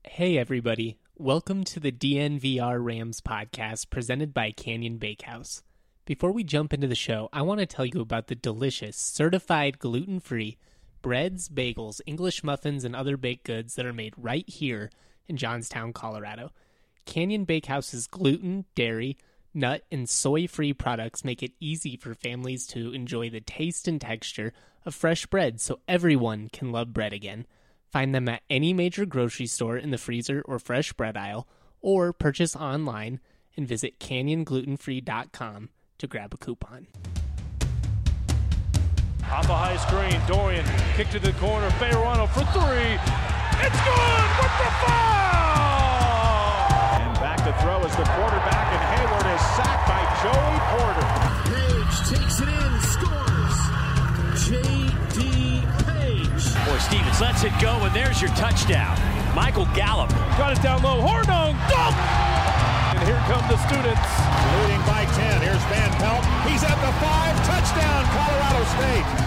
Hey everybody, welcome to the DNVR Rams podcast presented by Canyon Bakehouse. Before we jump into the show, I want to tell you about the delicious, certified gluten-free breads, bagels, English muffins, and other baked goods that are made right here in Johnstown, Colorado. Canyon Bakehouse's gluten, dairy, nut, and soy-free products make it easy for families to enjoy the taste and texture of fresh bread so everyone can love bread again. Find them at any major grocery store in the freezer or fresh bread aisle, or purchase online and visit canyonglutenfree.com to grab a coupon. Off a high screen, Dorian kick to the corner, Bejarano for three. It's good with the foul! And back to throw is the quarterback, and Hayward is sacked by Joey Porter. Page takes it in, scores. J.D. Boy, Stevens lets it go, and there's your touchdown. Michael Gallup. Got it down low, Hornung, dunk! And here come the students. Leading by 10, here's Van Pelt. He's at the 5, touchdown, Colorado State.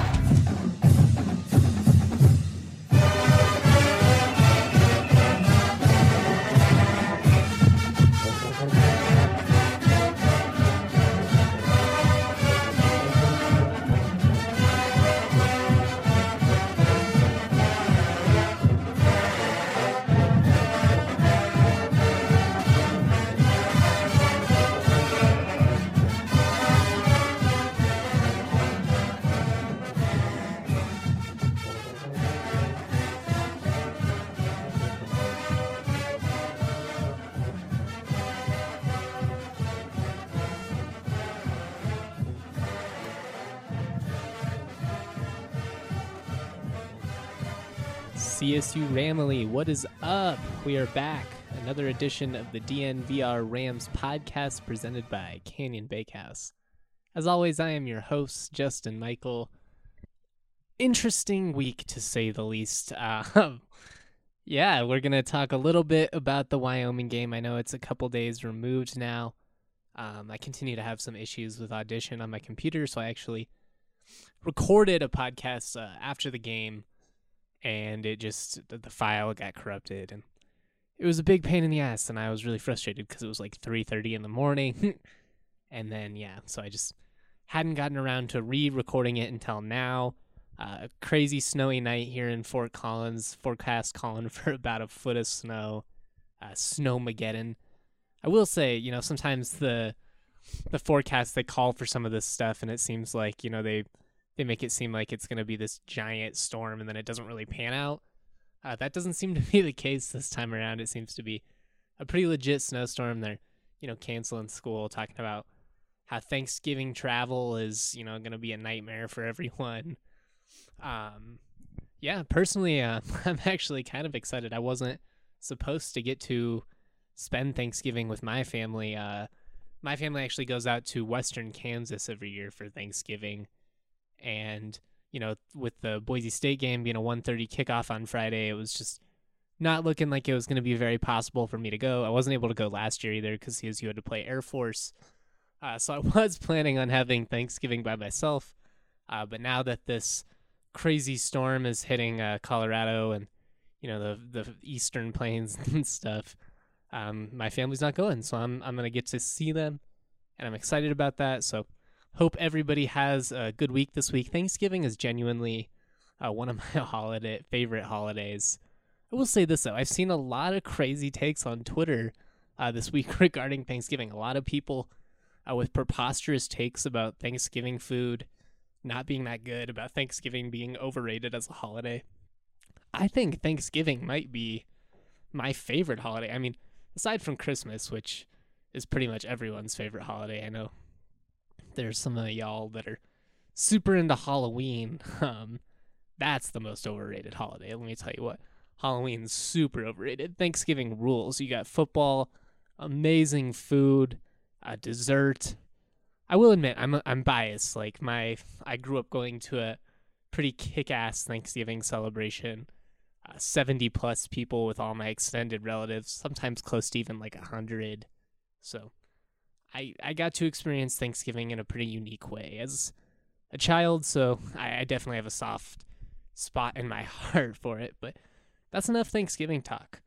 CSU Ramily, what is up? We are back. Another edition of the DNVR Rams podcast presented by Canyon Bakehouse. As always, I am your host, Justin Michael. Interesting week, to say the least. We're going to talk a little bit about the Wyoming game. I know it's a couple days removed now. I continue to have some issues with Audition on my computer, so I actually recorded a podcast after the game. And the file got corrupted, and it was a big pain in the ass, and I was really frustrated because it was like 3:30 in the morning, and then, so I just hadn't gotten around to re-recording it until now. A crazy snowy night here in Fort Collins, forecast calling for about a foot of snow, Snowmageddon. I will say, sometimes the forecast, they call for some of this stuff, and it seems like, they make it seem like it's going to be this giant storm, and then it doesn't really pan out. That doesn't seem to be the case this time around. It seems to be a pretty legit snowstorm. They're, canceling school, talking about how Thanksgiving travel is, going to be a nightmare for everyone. Personally, I'm actually kind of excited. I wasn't supposed to get to spend Thanksgiving with my family. My family actually goes out to Western Kansas every year for Thanksgiving. And, with the Boise State game being a 1:30 kickoff on Friday, it was just not looking like it was going to be very possible for me to go. I wasn't able to go last year either because CSU had to play Air Force. So I was planning on having Thanksgiving by myself. But now that this crazy storm is hitting Colorado and, the Eastern Plains and stuff, my family's not going. So I'm going to get to see them, and I'm excited about that. So hope everybody has a good week this week. Thanksgiving is genuinely one of my favorite holidays. I will say this, though. I've seen a lot of crazy takes on Twitter this week regarding Thanksgiving. A lot of people with preposterous takes about Thanksgiving food not being that good, about Thanksgiving being overrated as a holiday. I think Thanksgiving might be my favorite holiday. I mean, aside from Christmas, which is pretty much everyone's favorite holiday. I know there's some of y'all that are super into Halloween. That's the most overrated holiday. Let me tell you what. Halloween's super overrated. Thanksgiving rules. You got football, amazing food, dessert. I will admit, I'm biased. Like I grew up going to a pretty kick-ass Thanksgiving celebration. 70 plus people with all my extended relatives, sometimes close to even like 100. So I got to experience Thanksgiving in a pretty unique way as a child, so I definitely have a soft spot in my heart for it. But that's enough Thanksgiving talk.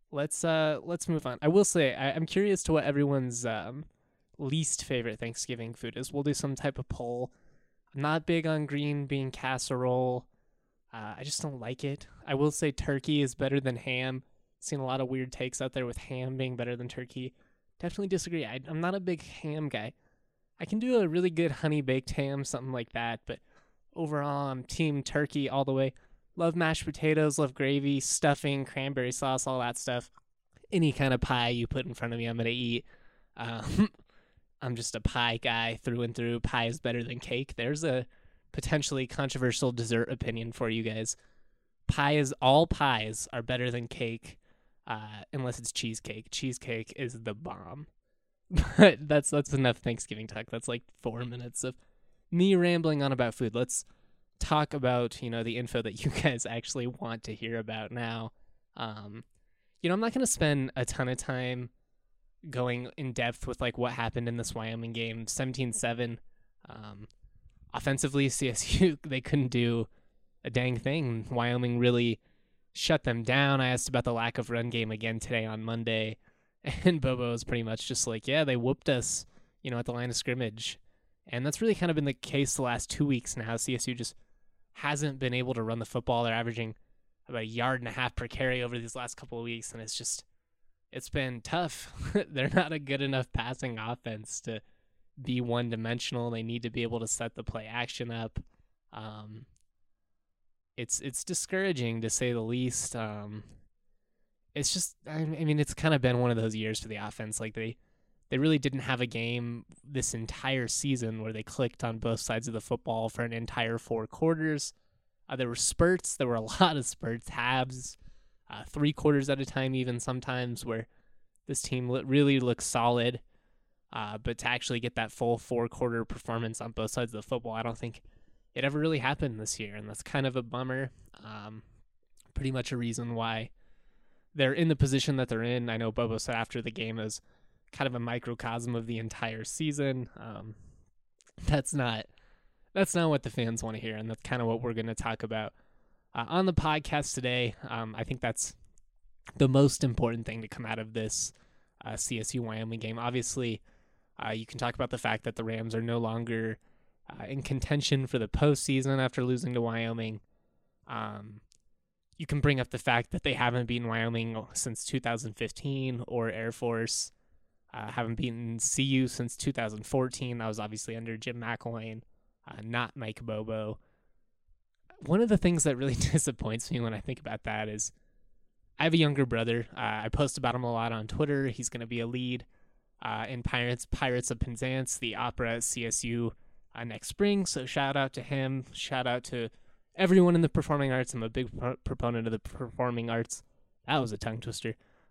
let's move on. I will say I'm curious to what everyone's least favorite Thanksgiving food is. We'll do some type of poll. I'm not big on green bean casserole. I just don't like it. I will say turkey is better than ham. Seen a lot of weird takes out there with ham being better than turkey. Definitely disagree. I'm not a big ham guy. I can do a really good honey baked ham, something like that, but overall I'm team turkey all the way. Love mashed potatoes, love gravy, stuffing, cranberry sauce, all that stuff. Any kind of pie you put in front of me, I'm going to eat. I'm just a pie guy through and through. Pie is better than cake. There's a potentially controversial dessert opinion for you guys. All pies are better than cake, unless it's cheesecake. Cheesecake is the bomb. But that's enough Thanksgiving talk. That's like 4 minutes of me rambling on about food. Let's talk about, the info that you guys actually want to hear about now. I'm not going to spend a ton of time going in depth with like what happened in this Wyoming game. 17-7. Offensively, CSU, they couldn't do a dang thing. Wyoming really shut them down. I asked about the lack of run game again today on Monday, and Bobo was pretty much just like, yeah, they whooped us, at the line of scrimmage. And that's really kind of been the case the last 2 weeks now. CSU just hasn't been able to run the football. They're averaging about 1.5 yards per carry over these last couple of weeks, and it's been tough. They're not a good enough passing offense to be one-dimensional. They need to be able to set the play action up. It's discouraging to say the least. It's just, it's kind of been one of those years for the offense. Like they really didn't have a game this entire season where they clicked on both sides of the football for an entire 4 quarters. There were spurts. There were a lot of spurts, halves, 3 quarters at a time even sometimes, where this team really looks solid. But to actually get that full 4-quarter performance on both sides of the football, I don't think it ever really happened this year, and that's kind of a bummer. Pretty much a reason why they're in the position that they're in. I know Bobo said after the game it was kind of a microcosm of the entire season. That's not what the fans want to hear, and that's kind of what we're going to talk about on the podcast today. I think that's the most important thing to come out of this CSU-Wyoming game. Obviously, you can talk about the fact that the Rams are no longer in contention for the postseason after losing to Wyoming. You can bring up the fact that they haven't beaten Wyoming since 2015, or Air Force haven't beaten CU since 2014. That was obviously under Jim McElwain, not Mike Bobo. One of the things that really disappoints me when I think about that is I have a younger brother. I post about him a lot on Twitter. He's going to be a lead in Pirates of Penzance, the opera at CSU next spring. So shout out to him. Shout out to everyone in the performing arts. I'm a big proponent of the performing arts. That was a tongue twister.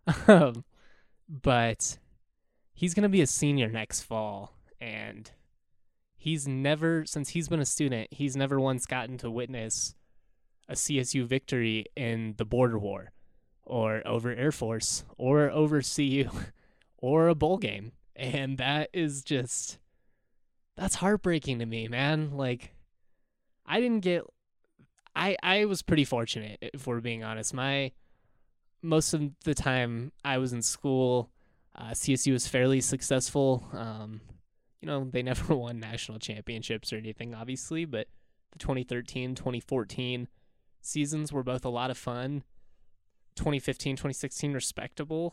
But he's going to be a senior next fall. And since he's been a student, he's never once gotten to witness a CSU victory in the border war, or over Air Force, or over CU, or a bowl game. And that's heartbreaking to me, man. Like, I was pretty fortunate, if we're being honest. Most of the time I was in school, CSU was fairly successful. They never won national championships or anything, obviously, but the 2013, 2014 seasons were both a lot of fun. 2015, 2016, respectable.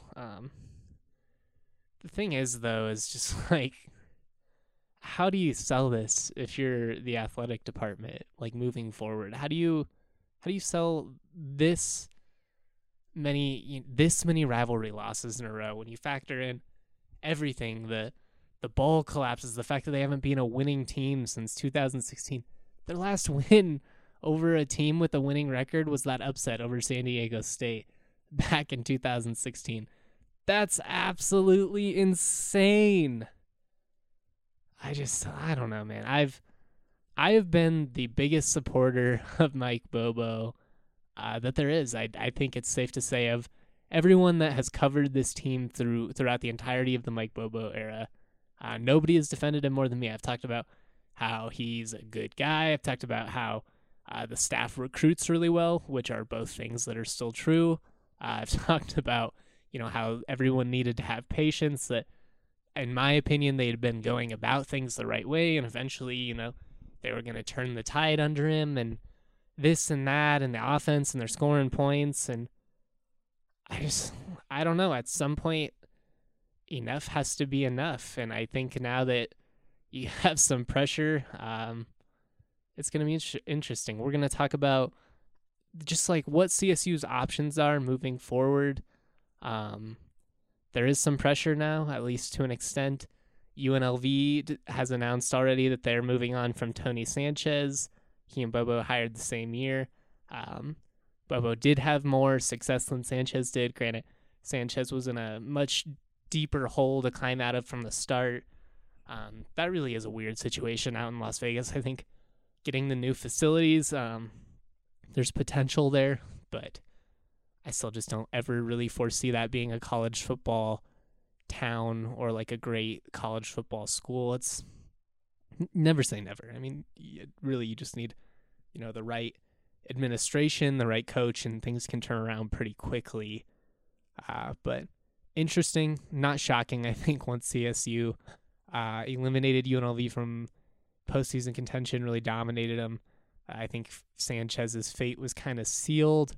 The thing is, though, is just like, how do you sell this if you're the athletic department, like, moving forward? How do you sell this many rivalry losses in a row when you factor in everything, the bowl collapses, the fact that they haven't been a winning team since 2016. Their last win over a team with a winning record was that upset over San Diego State back in 2016. That's absolutely insane. I don't know, man. I have been the biggest supporter of Mike Bobo that there is. I think it's safe to say, of everyone that has covered this team throughout the entirety of the Mike Bobo era, nobody has defended him more than me. I've talked about how he's a good guy. I've talked about how the staff recruits really well, which are both things that are still true. I've talked about how everyone needed to have patience, that in my opinion, they had been going about things the right way, and eventually, they were going to turn the tide under him, and this and that, and the offense, and they're scoring points, and I don't know, at some point, enough has to be enough, and I think now that you have some pressure, it's going to be interesting. We're going to talk about just like what CSU's options are moving forward. There is some pressure now, at least to an extent. UNLV has announced already that they're moving on from Tony Sanchez. He and Bobo hired the same year. Bobo did have more success than Sanchez did. Granted, Sanchez was in a much deeper hole to climb out of from the start. That really is a weird situation out in Las Vegas. I think getting the new facilities, there's potential there, but I still just don't ever really foresee that being a college football town or like a great college football school. It's never say never. I mean, you just need, the right administration, the right coach, and things can turn around pretty quickly. But interesting, not shocking, I think, once CSU eliminated UNLV from postseason contention, really dominated them. I think Sanchez's fate was kind of sealed.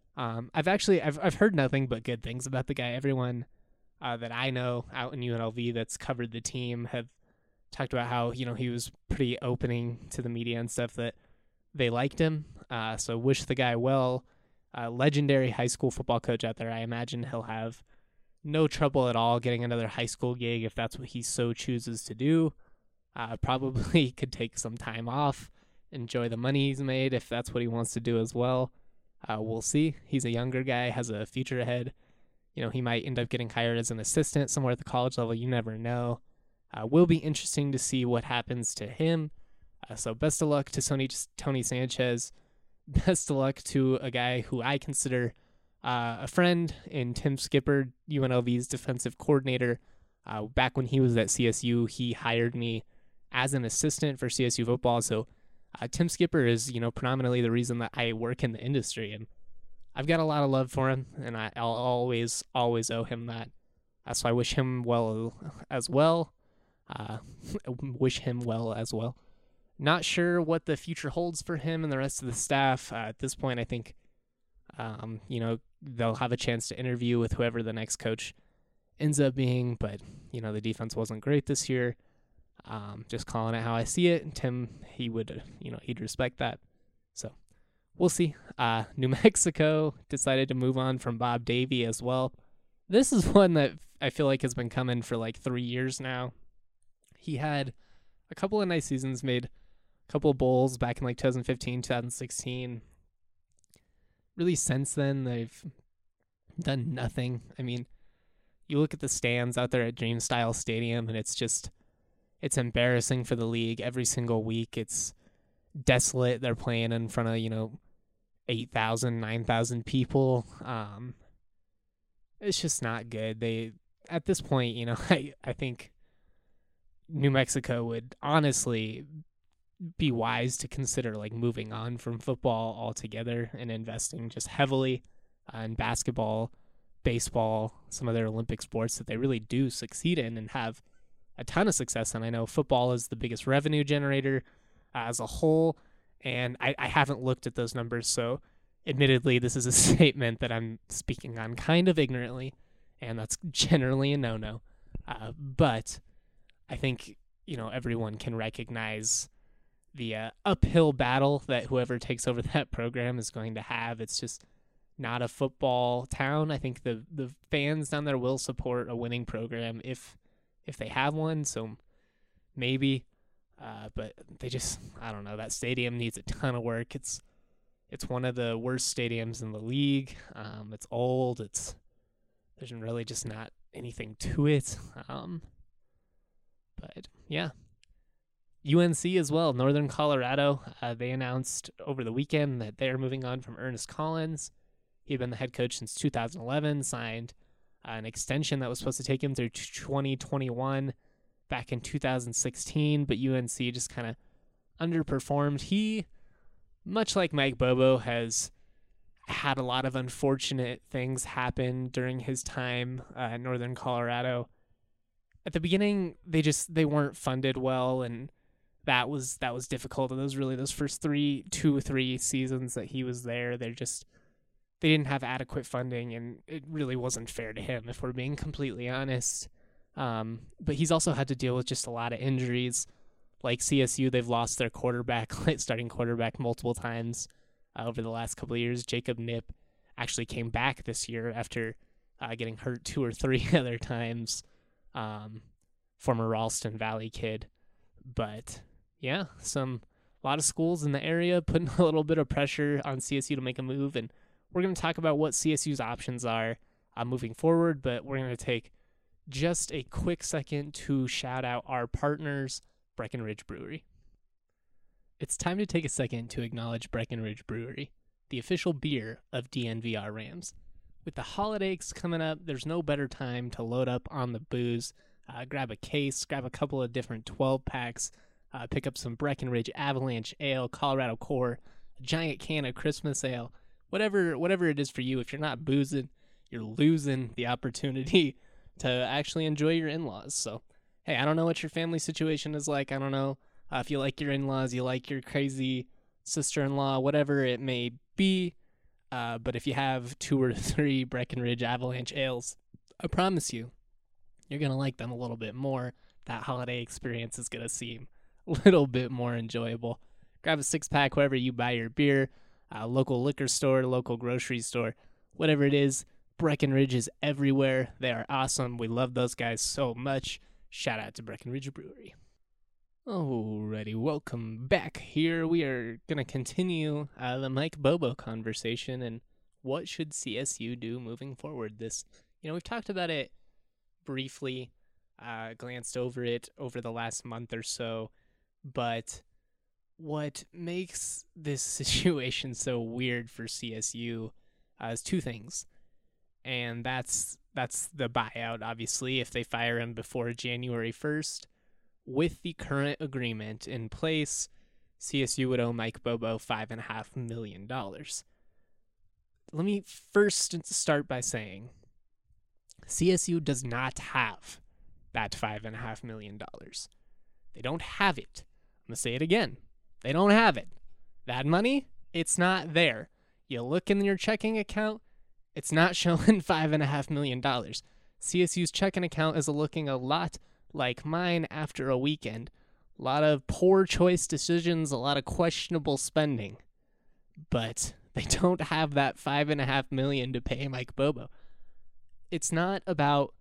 I've heard nothing but good things about the guy. Everyone that I know out in UNLV that's covered the team have talked about how, he was pretty opening to the media and stuff, that they liked him. So wish the guy well. Legendary high school football coach out there. I imagine he'll have no trouble at all getting another high school gig if that's what he so chooses to do. Probably could take some time off, enjoy the money he's made if that's what he wants to do as well. We'll see. He's a younger guy, has a future ahead. He might end up getting hired as an assistant somewhere at the college level. You never know. Will be interesting to see what happens to him. So best of luck to Tony Sanchez. Best of luck to a guy who I consider a friend in Tim Skipper, UNLV's defensive coordinator. Back when he was at CSU, he hired me as an assistant for CSU football. So Tim Skipper is, predominantly the reason that I work in the industry, and I've got a lot of love for him, and I'll always owe him that. So I wish him well as well. Not sure what the future holds for him and the rest of the staff. At this point, I think, they'll have a chance to interview with whoever the next coach ends up being, but, the defense wasn't great this year. Just calling it how I see it. And Tim, he would, he'd respect that. So we'll see. New Mexico decided to move on from Bob Davie as well. This is one that I feel like has been coming for like 3 years now. He had a couple of nice seasons, made a couple of bowls back in like 2015, 2016. Really since then, they've done nothing. I mean, you look at the stands out there at Dreamstyle Stadium, and it's embarrassing for the league every single week. It's desolate. They're playing in front of, 8,000, 9,000 people. It's just not good. At this point, I think New Mexico would honestly be wise to consider like moving on from football altogether and investing just heavily in basketball, baseball, some other Olympic sports that they really do succeed in and have a ton of success. And I know football is the biggest revenue generator as a whole, and I haven't looked at those numbers, so admittedly this is a statement that I'm speaking on kind of ignorantly, and that's generally a no-no. But I think, everyone can recognize the uphill battle that whoever takes over that program is going to have. It's just not a football town. I think the fans down there will support a winning program if they have one, so there's but they just, I don't know, that stadium needs a ton of work. It's one of the worst stadiums in the league. It's old. There's really just not anything to it. But yeah, UNC as well, Northern Colorado. They announced over the weekend that they're moving on from Ernest Collins. He'd been the head coach since 2011, signed an extension that was supposed to take him through 2021 back in 2016, but UNC just kind of underperformed. He, much like Mike Bobo, has had a lot of unfortunate things happen during his time in Northern Colorado. At the beginning, they weren't funded well, and that was difficult. And those first 2 or 3 seasons that he was there, they didn't have adequate funding, and it really wasn't fair to him, if we're being completely honest. But he's also had to deal with just a lot of injuries. Like CSU, they've lost their starting quarterback multiple times over the last couple of years. Jacob Knipp actually came back this year after getting hurt 2 or 3 other times. Former Ralston Valley kid. But yeah, a lot of schools in the area putting a little bit of pressure on CSU to make a move, and we're going to talk about what CSU's options are moving forward, but we're going to take just a quick second to shout out our partners, Breckenridge Brewery. It's time to take a second to acknowledge Breckenridge Brewery, the official beer of DNVR Rams. With the holidays coming up, there's no better time to load up on the booze. Grab a case, grab a couple of different 12-packs, pick up some Breckenridge Avalanche Ale, Colorado Core, a giant can of Christmas Ale, whatever it is for you. If you're not boozing, you're losing the opportunity to actually enjoy your in-laws. So, hey, I don't know what your family situation is like. I don't know if you like your in-laws, you like your crazy sister-in-law, whatever it may be. But if you have 2 or 3 Breckenridge Avalanche Ales, I promise you, you're going to like them a little bit more. That holiday experience is going to seem a little bit more enjoyable. Grab a 6-pack wherever you buy your beer, local liquor store, local grocery store, whatever it is. Breckenridge is everywhere. They are awesome. We love those guys so much. Shout out to Breckenridge Brewery. Alrighty, welcome back. Here we are going to continue the Mike Bobo conversation and what should CSU do moving forward. We've talked about it briefly, glanced over it over the last month or so, but what makes this situation so weird for CSU is 2 things. And that's the buyout, obviously, if they fire him before January 1st. With the current agreement in place, CSU would owe Mike Bobo $5.5 million. Let me first start by saying CSU does not have that $5.5 million. They don't have it. I'm going to say it again. They don't have it. That money, it's not there. You look in your checking account, it's not showing $5.5 million. CSU's checking account is looking a lot like mine after a weekend. A lot of poor choice decisions, a lot of questionable spending. But they don't have that $5.5 million to pay Mike Bobo. It's not about,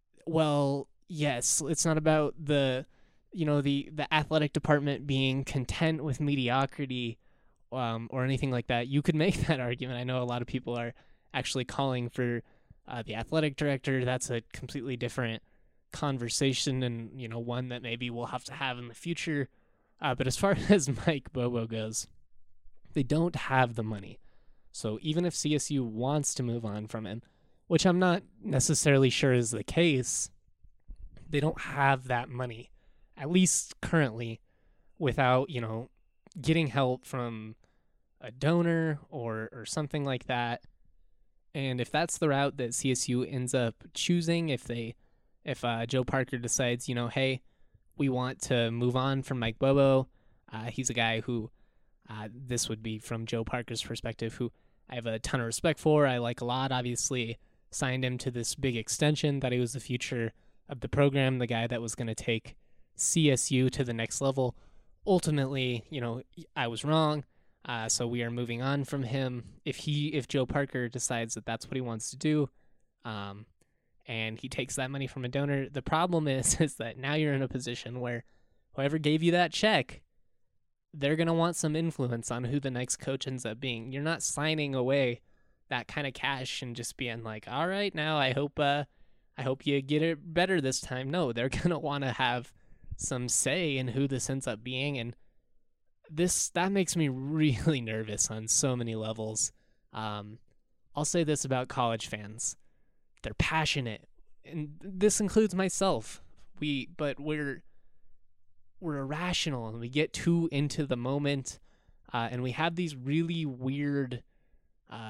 it's not about the athletic department being content with mediocrity or anything like that. You could make that argument. I know a lot of people are actually calling for the athletic director. That's a completely different conversation and, one that maybe we'll have to have in the future. But as far as Mike Bobo goes, they don't have the money. So even if CSU wants to move on from him, which I'm not necessarily sure is the case, they don't have that money, at least currently, without, getting help from a donor or something like that. And if that's the route that CSU ends up choosing, if Joe Parker decides, hey, we want to move on from Mike Bobo, he's a guy who, this would be from Joe Parker's perspective, who I have a ton of respect for. I like a lot, obviously, signed him to this big extension, that he was the future of the program, the guy that was going to take CSU to the next level. Ultimately, I was wrong. So we are moving on from him. If Joe Parker decides that that's what he wants to do, and he takes that money from a donor, the problem is that now you're in a position where whoever gave you that check, they're going to want some influence on who the next coach ends up being. You're not signing away that kind of cash and just being like, all right, now I hope you get it better this time. No, they're going to want to have some say in who this ends up being, and that makes me really nervous on so many levels. I'll say this about college fans. They're passionate, and this includes myself. We're irrational, and we get too into the moment, and we have these really weird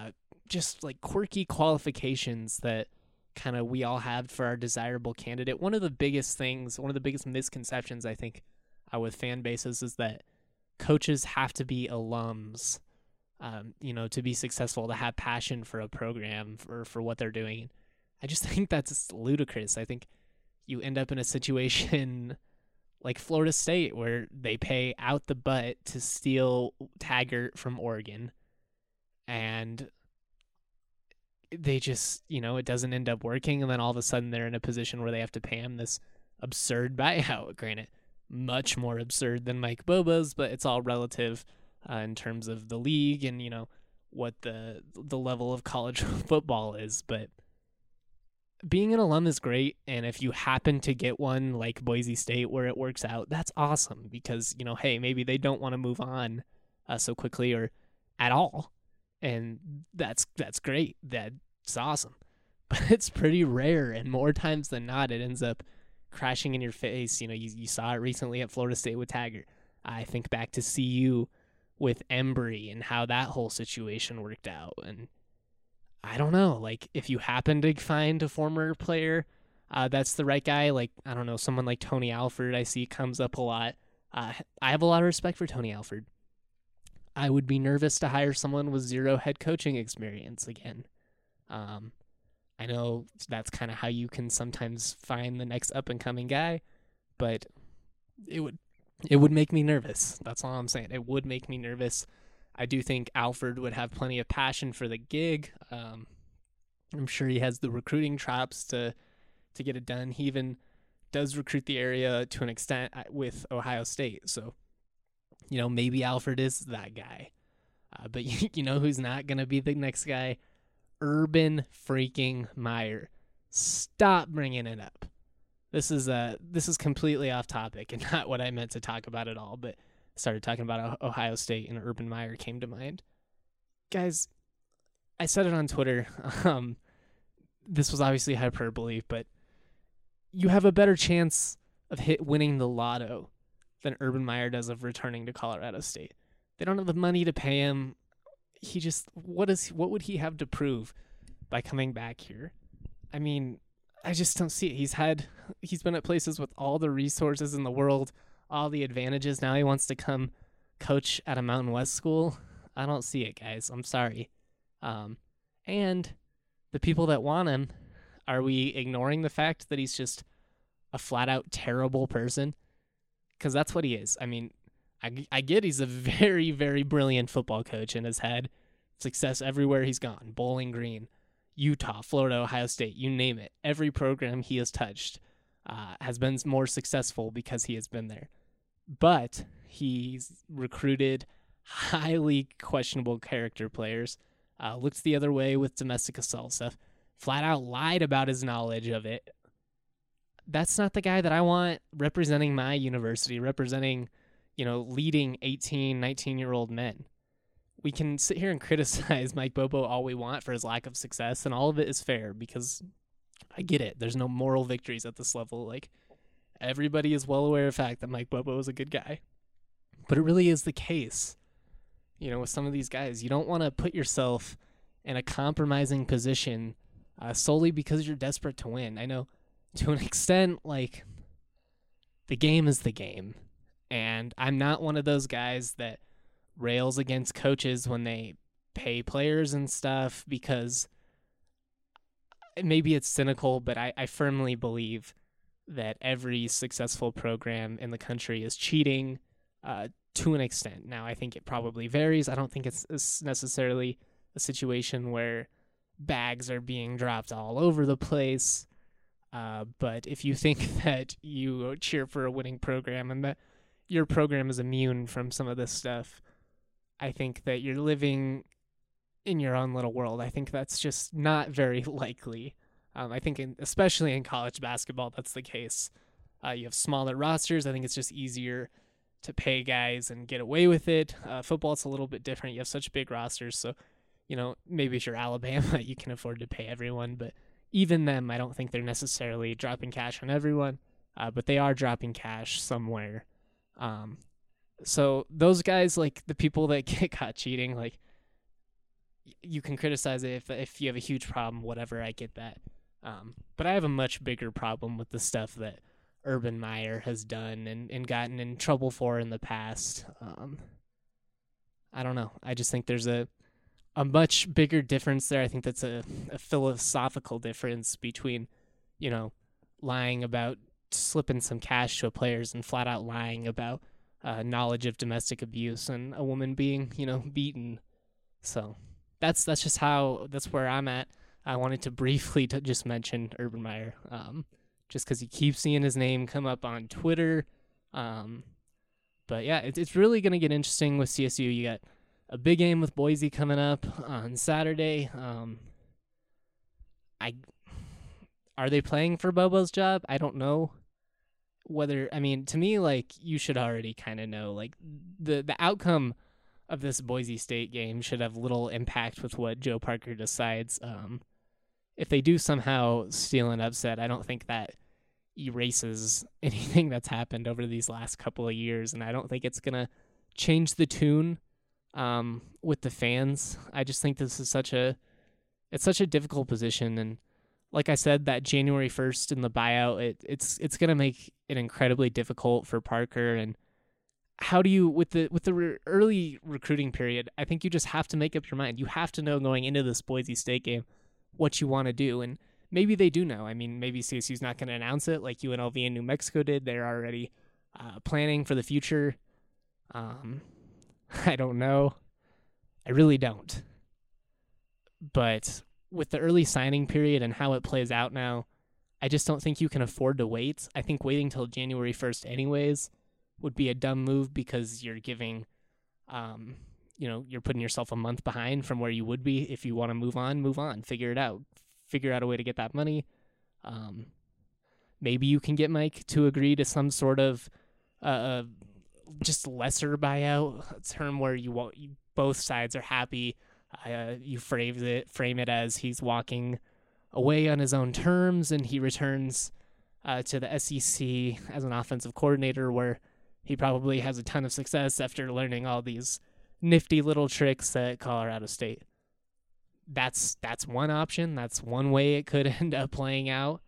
just like quirky qualifications that kind of we all have for our desirable candidate. One of the biggest misconceptions I think with fan bases is that coaches have to be alums, to be successful, to have passion for a program for what they're doing. I just think that's ludicrous. I think you end up in a situation like Florida State where they pay out the butt to steal Taggart from Oregon, and they just, it doesn't end up working, and then all of a sudden they're in a position where they have to pay him this absurd buyout. Granted, much more absurd than Mike Bobo's, but it's all relative in terms of the league and, what the level of college football is. But being an alum is great, and if you happen to get one like Boise State where it works out, that's awesome because, hey, maybe they don't want to move on so quickly or at all, and that's great. That's awesome. But it's pretty rare, and more times than not, it ends up crashing in your face. You saw it recently at Florida State with Taggart. I think back to CU with Embry and how that whole situation worked out, and I don't know, like, if you happen to find a former player that's the right guy, like, I don't know, someone like Tony Alford I see comes up a lot. I have a lot of respect for Tony Alford. I would be nervous to hire someone with zero head coaching experience again. I know that's kind of how you can sometimes find the next up-and-coming guy, but it would make me nervous. That's all I'm saying. It would make me nervous. I do think Alford would have plenty of passion for the gig. I'm sure he has the recruiting chops to get it done. He even does recruit the area to an extent with Ohio State. So, maybe Alford is that guy. But you know who's not going to be the next guy? Urban freaking Meyer. Stop bringing it up. This is completely off topic and not what I meant to talk about at all, but started talking about Ohio State and Urban Meyer came to mind. Guys, I said it on Twitter. This was obviously hyperbole, but you have a better chance of winning the lotto than Urban Meyer does of returning to Colorado State. They don't have the money to pay him. What would he have to prove by coming back here? I mean, I just don't see it. He's been at places with all the resources in the world, all the advantages. Now he wants to come coach at a Mountain West school. I don't see it, guys. I'm sorry. And the people that want him, are we ignoring the fact that he's just a flat-out terrible person? Because that's what he is. I mean, I get he's a very, very brilliant football coach and has had success everywhere he's gone. Bowling Green, Utah, Florida, Ohio State, you name it. Every program he has touched has been more successful because he has been there. But he's recruited highly questionable character players, looked the other way with domestic assault stuff, flat out lied about his knowledge of it. That's not the guy that I want representing my university, representing, leading 18, 19-year-old men. We can sit here and criticize Mike Bobo all we want for his lack of success, and all of it is fair because I get it. There's no moral victories at this level. Like, everybody is well aware of the fact that Mike Bobo is a good guy. But it really is the case, with some of these guys. You don't want to put yourself in a compromising position solely because you're desperate to win. I know to an extent, like, the game is the game. And I'm not one of those guys that rails against coaches when they pay players and stuff, because maybe it's cynical, but I firmly believe that every successful program in the country is cheating to an extent. Now, I think it probably varies. I don't think it's necessarily a situation where bags are being dropped all over the place. But if you think that you cheer for a winning program and that your program is immune from some of this stuff, I think that you're living in your own little world. I think that's just not very likely. I think especially in college basketball, that's the case. You have smaller rosters. I think it's just easier to pay guys and get away with it. Football, it's a little bit different. You have such big rosters. So, maybe if you're Alabama, you can afford to pay everyone. But even them, I don't think they're necessarily dropping cash on everyone. But they are dropping cash somewhere. So those guys, like the people that get caught cheating, like, you can criticize it if you have a huge problem, whatever. I get that. But I have a much bigger problem with the stuff that Urban Meyer has done and gotten in trouble for in the past. I don't know. I just think there's a much bigger difference there. I think that's a philosophical difference between, lying about slipping some cash to a players and flat out lying about knowledge of domestic abuse and a woman being, beaten. So that's where I'm at. I wanted to briefly just mention Urban Meyer, just because you keep seeing his name come up on Twitter. But yeah, it's really going to get interesting with CSU. You got a big game with Boise coming up on Saturday. Are they playing for Bobo's job? I don't know. To me, you should already kind of know, the outcome of this Boise State game should have little impact with what Joe Parker decides. If they do somehow steal an upset, I don't think that erases anything that's happened over these last couple of years, and I don't think it's going to change the tune with the fans. I just think this is such a difficult position, and like I said, that January 1st in the buyout, it's going to make it incredibly difficult for Parker. And how do you, with the early recruiting period, I think you just have to make up your mind. You have to know going into this Boise State game what you want to do, and maybe they do know. Maybe CSU's not going to announce it like UNLV and New Mexico did. They're already planning for the future. I don't know. I really don't. But with the early signing period and how it plays out now, I just don't think you can afford to wait. I think waiting till January 1st anyways would be a dumb move, because you're giving, you're putting yourself a month behind from where you would be. If you want to move on, figure it out. Figure out a way to get that money. Maybe you can get Mike to agree to some sort of just lesser buyout term where both sides are happy. You frame it as he's walking away on his own terms, and he returns to the SEC as an offensive coordinator, where he probably has a ton of success after learning all these nifty little tricks at Colorado State. That's one option. That's one way it could end up playing out.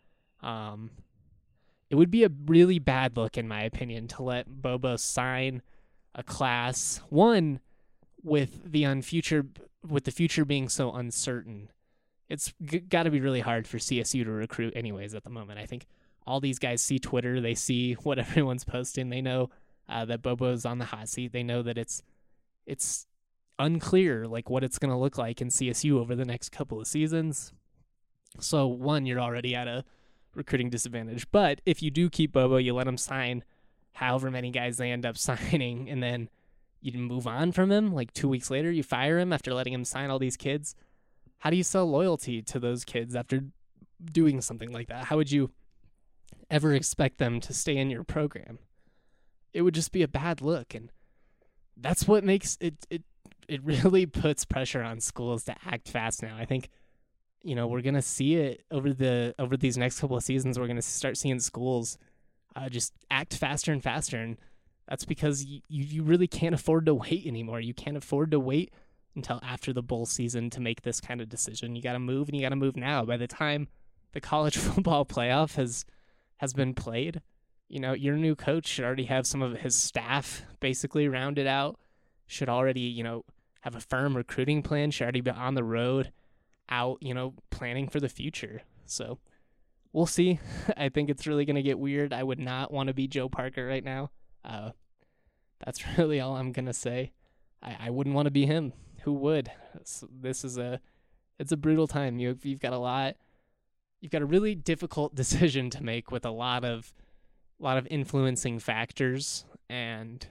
It would be a really bad look, in my opinion, to let Bobo sign a class one with the future being so uncertain. It's got to be really hard for CSU to recruit anyways at the moment. I think all these guys see Twitter. They see what everyone's posting. They know that Bobo's on the hot seat. They know that it's unclear what it's going to look like in CSU over the next couple of seasons. So one, you're already at a recruiting disadvantage. But if you do keep Bobo, you let him sign however many guys they end up signing, and then you move on from him. 2 weeks later, you fire him after letting him sign all these kids. How do you sell loyalty to those kids after doing something like that? How would you ever expect them to stay in your program? It would just be a bad look, and that's what makes it really puts pressure on schools to act fast now. I think, we're going to see it over these next couple of seasons. We're going to start seeing schools just act faster and faster, and that's because you really can't afford to wait anymore. You can't afford to wait until after the bowl season to make this kind of decision. You got to move, and you got to move now. By the time the college football playoff has been played, your new coach should already have some of his staff basically rounded out, should already, have a firm recruiting plan, should already be on the road, out, planning for the future. So we'll see. I think it's really going to get weird. I would not want to be Joe Parker right now. That's really all I'm going to say. I wouldn't want to be him. Who would? It's a brutal time. You've got a really difficult decision to make with a lot of influencing factors, and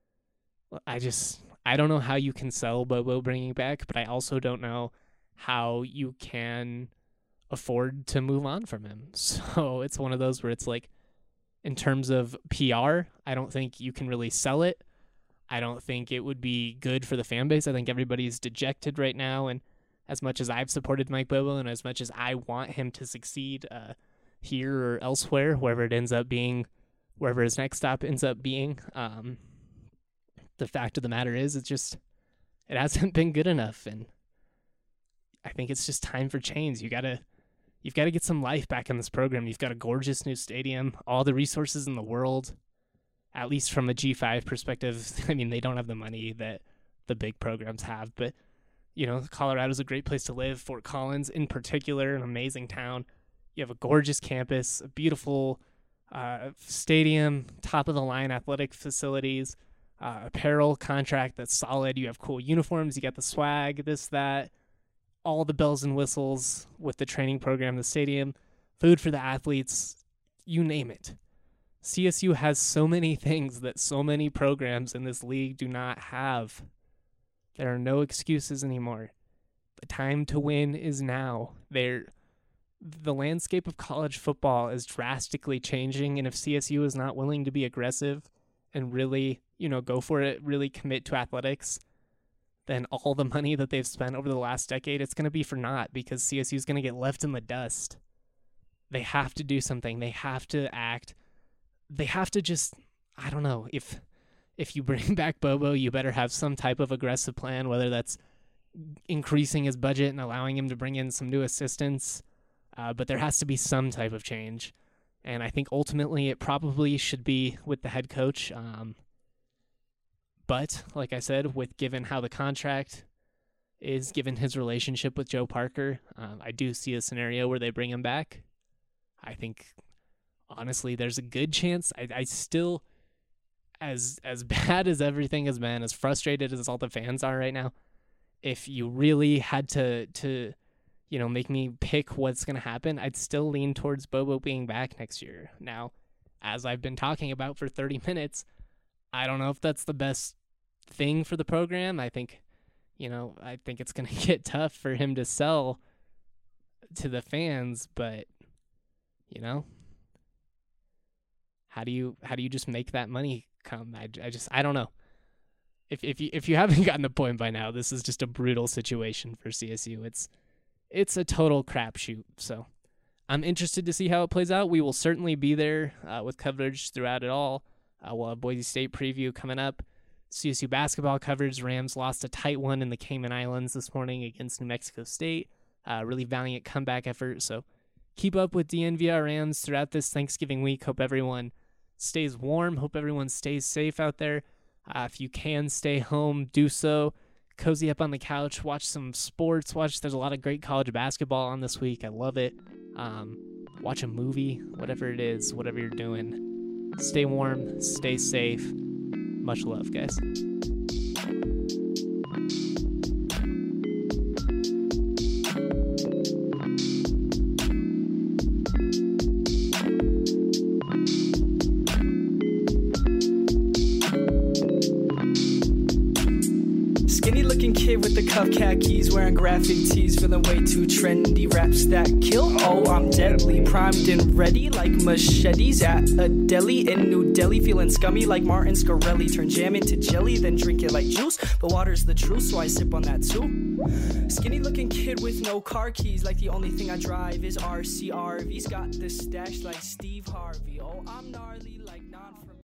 I don't know how you can sell Bobo bringing back, but I also don't know how you can afford to move on from him. So it's one of those where it's in terms of PR, I don't think you can really sell it. I don't think it would be good for the fan base. I think everybody's dejected right now, and as much as I've supported Mike Bobo and as much as I want him to succeed here or elsewhere, wherever it ends up being, wherever his next stop ends up being, the fact of the matter is it hasn't been good enough. And I think it's just time for change. You've got to get some life back in this program. You've got a gorgeous new stadium, all the resources in the world, at least from a G5 perspective. I mean, they don't have the money that the big programs have, but, you know, Colorado's a great place to live. Fort Collins, in particular, an amazing town. You have a gorgeous campus, a beautiful stadium, top-of-the-line athletic facilities, apparel contract that's solid. You have cool uniforms. You got the swag, this, that, all the bells and whistles with the training program, the stadium, food for the athletes, you name it. CSU has so many things that so many programs in this league do not have. There are no excuses anymore. The time to win is now. The landscape of college football is drastically changing, and if CSU is not willing to be aggressive and really, you know, go for it, really commit to athletics, then all the money that they've spent over the last decade, it's going to be for naught, because CSU is going to get left in the dust. They have to do something. They have to act. They have to just, I don't know, if you bring back Bobo, you better have some type of aggressive plan, whether that's increasing his budget and allowing him to bring in some new assistants. But there has to be some type of change. And I think ultimately it probably should be with the head coach. But like I said, given how the contract is, given his relationship with Joe Parker, I do see a scenario where they bring him back. I think, honestly, there's a good chance. I still, as bad as everything has been, as frustrated as all the fans are right now, if you really had to you know, make me pick what's going to happen, I'd still lean towards Bobo being back next year. Now, as I've been talking about for 30 minutes, I don't know if that's the best thing for the program. I think it's going to get tough for him to sell to the fans, but, you know, how do you just make that money come? I don't know. If you haven't gotten the point by now, this is just a brutal situation for CSU. It's a total crapshoot. So I'm interested to see how it plays out. We will certainly be there with coverage throughout it all. We'll have Boise State preview coming up. CSU basketball coverage. Rams lost a tight one in the Cayman Islands this morning against New Mexico State. Really valiant comeback effort. So keep up with DNVR Rams throughout this Thanksgiving week. Hope everyone stays warm. Hope everyone stays safe out there. If you can stay home, do so. Cozy up on the couch, watch some sports. There's a lot of great college basketball on this week. I love it. Watch a movie, whatever it is, whatever you're doing. Stay warm, stay safe. Much love, guys. With the cuff khakis, wearing graphic tees, feeling way too trendy. Raps that kill, oh, I'm deadly. Primed and ready like machetes at a deli in New Delhi. Feeling scummy like Martin Scarelli. Turn jam into jelly, then drink it like juice. But water's the truth, so I sip on that too. Skinny looking kid with no car keys, like the only thing I drive is RCRV's got the stash like Steve Harvey. Oh, I'm gnarly.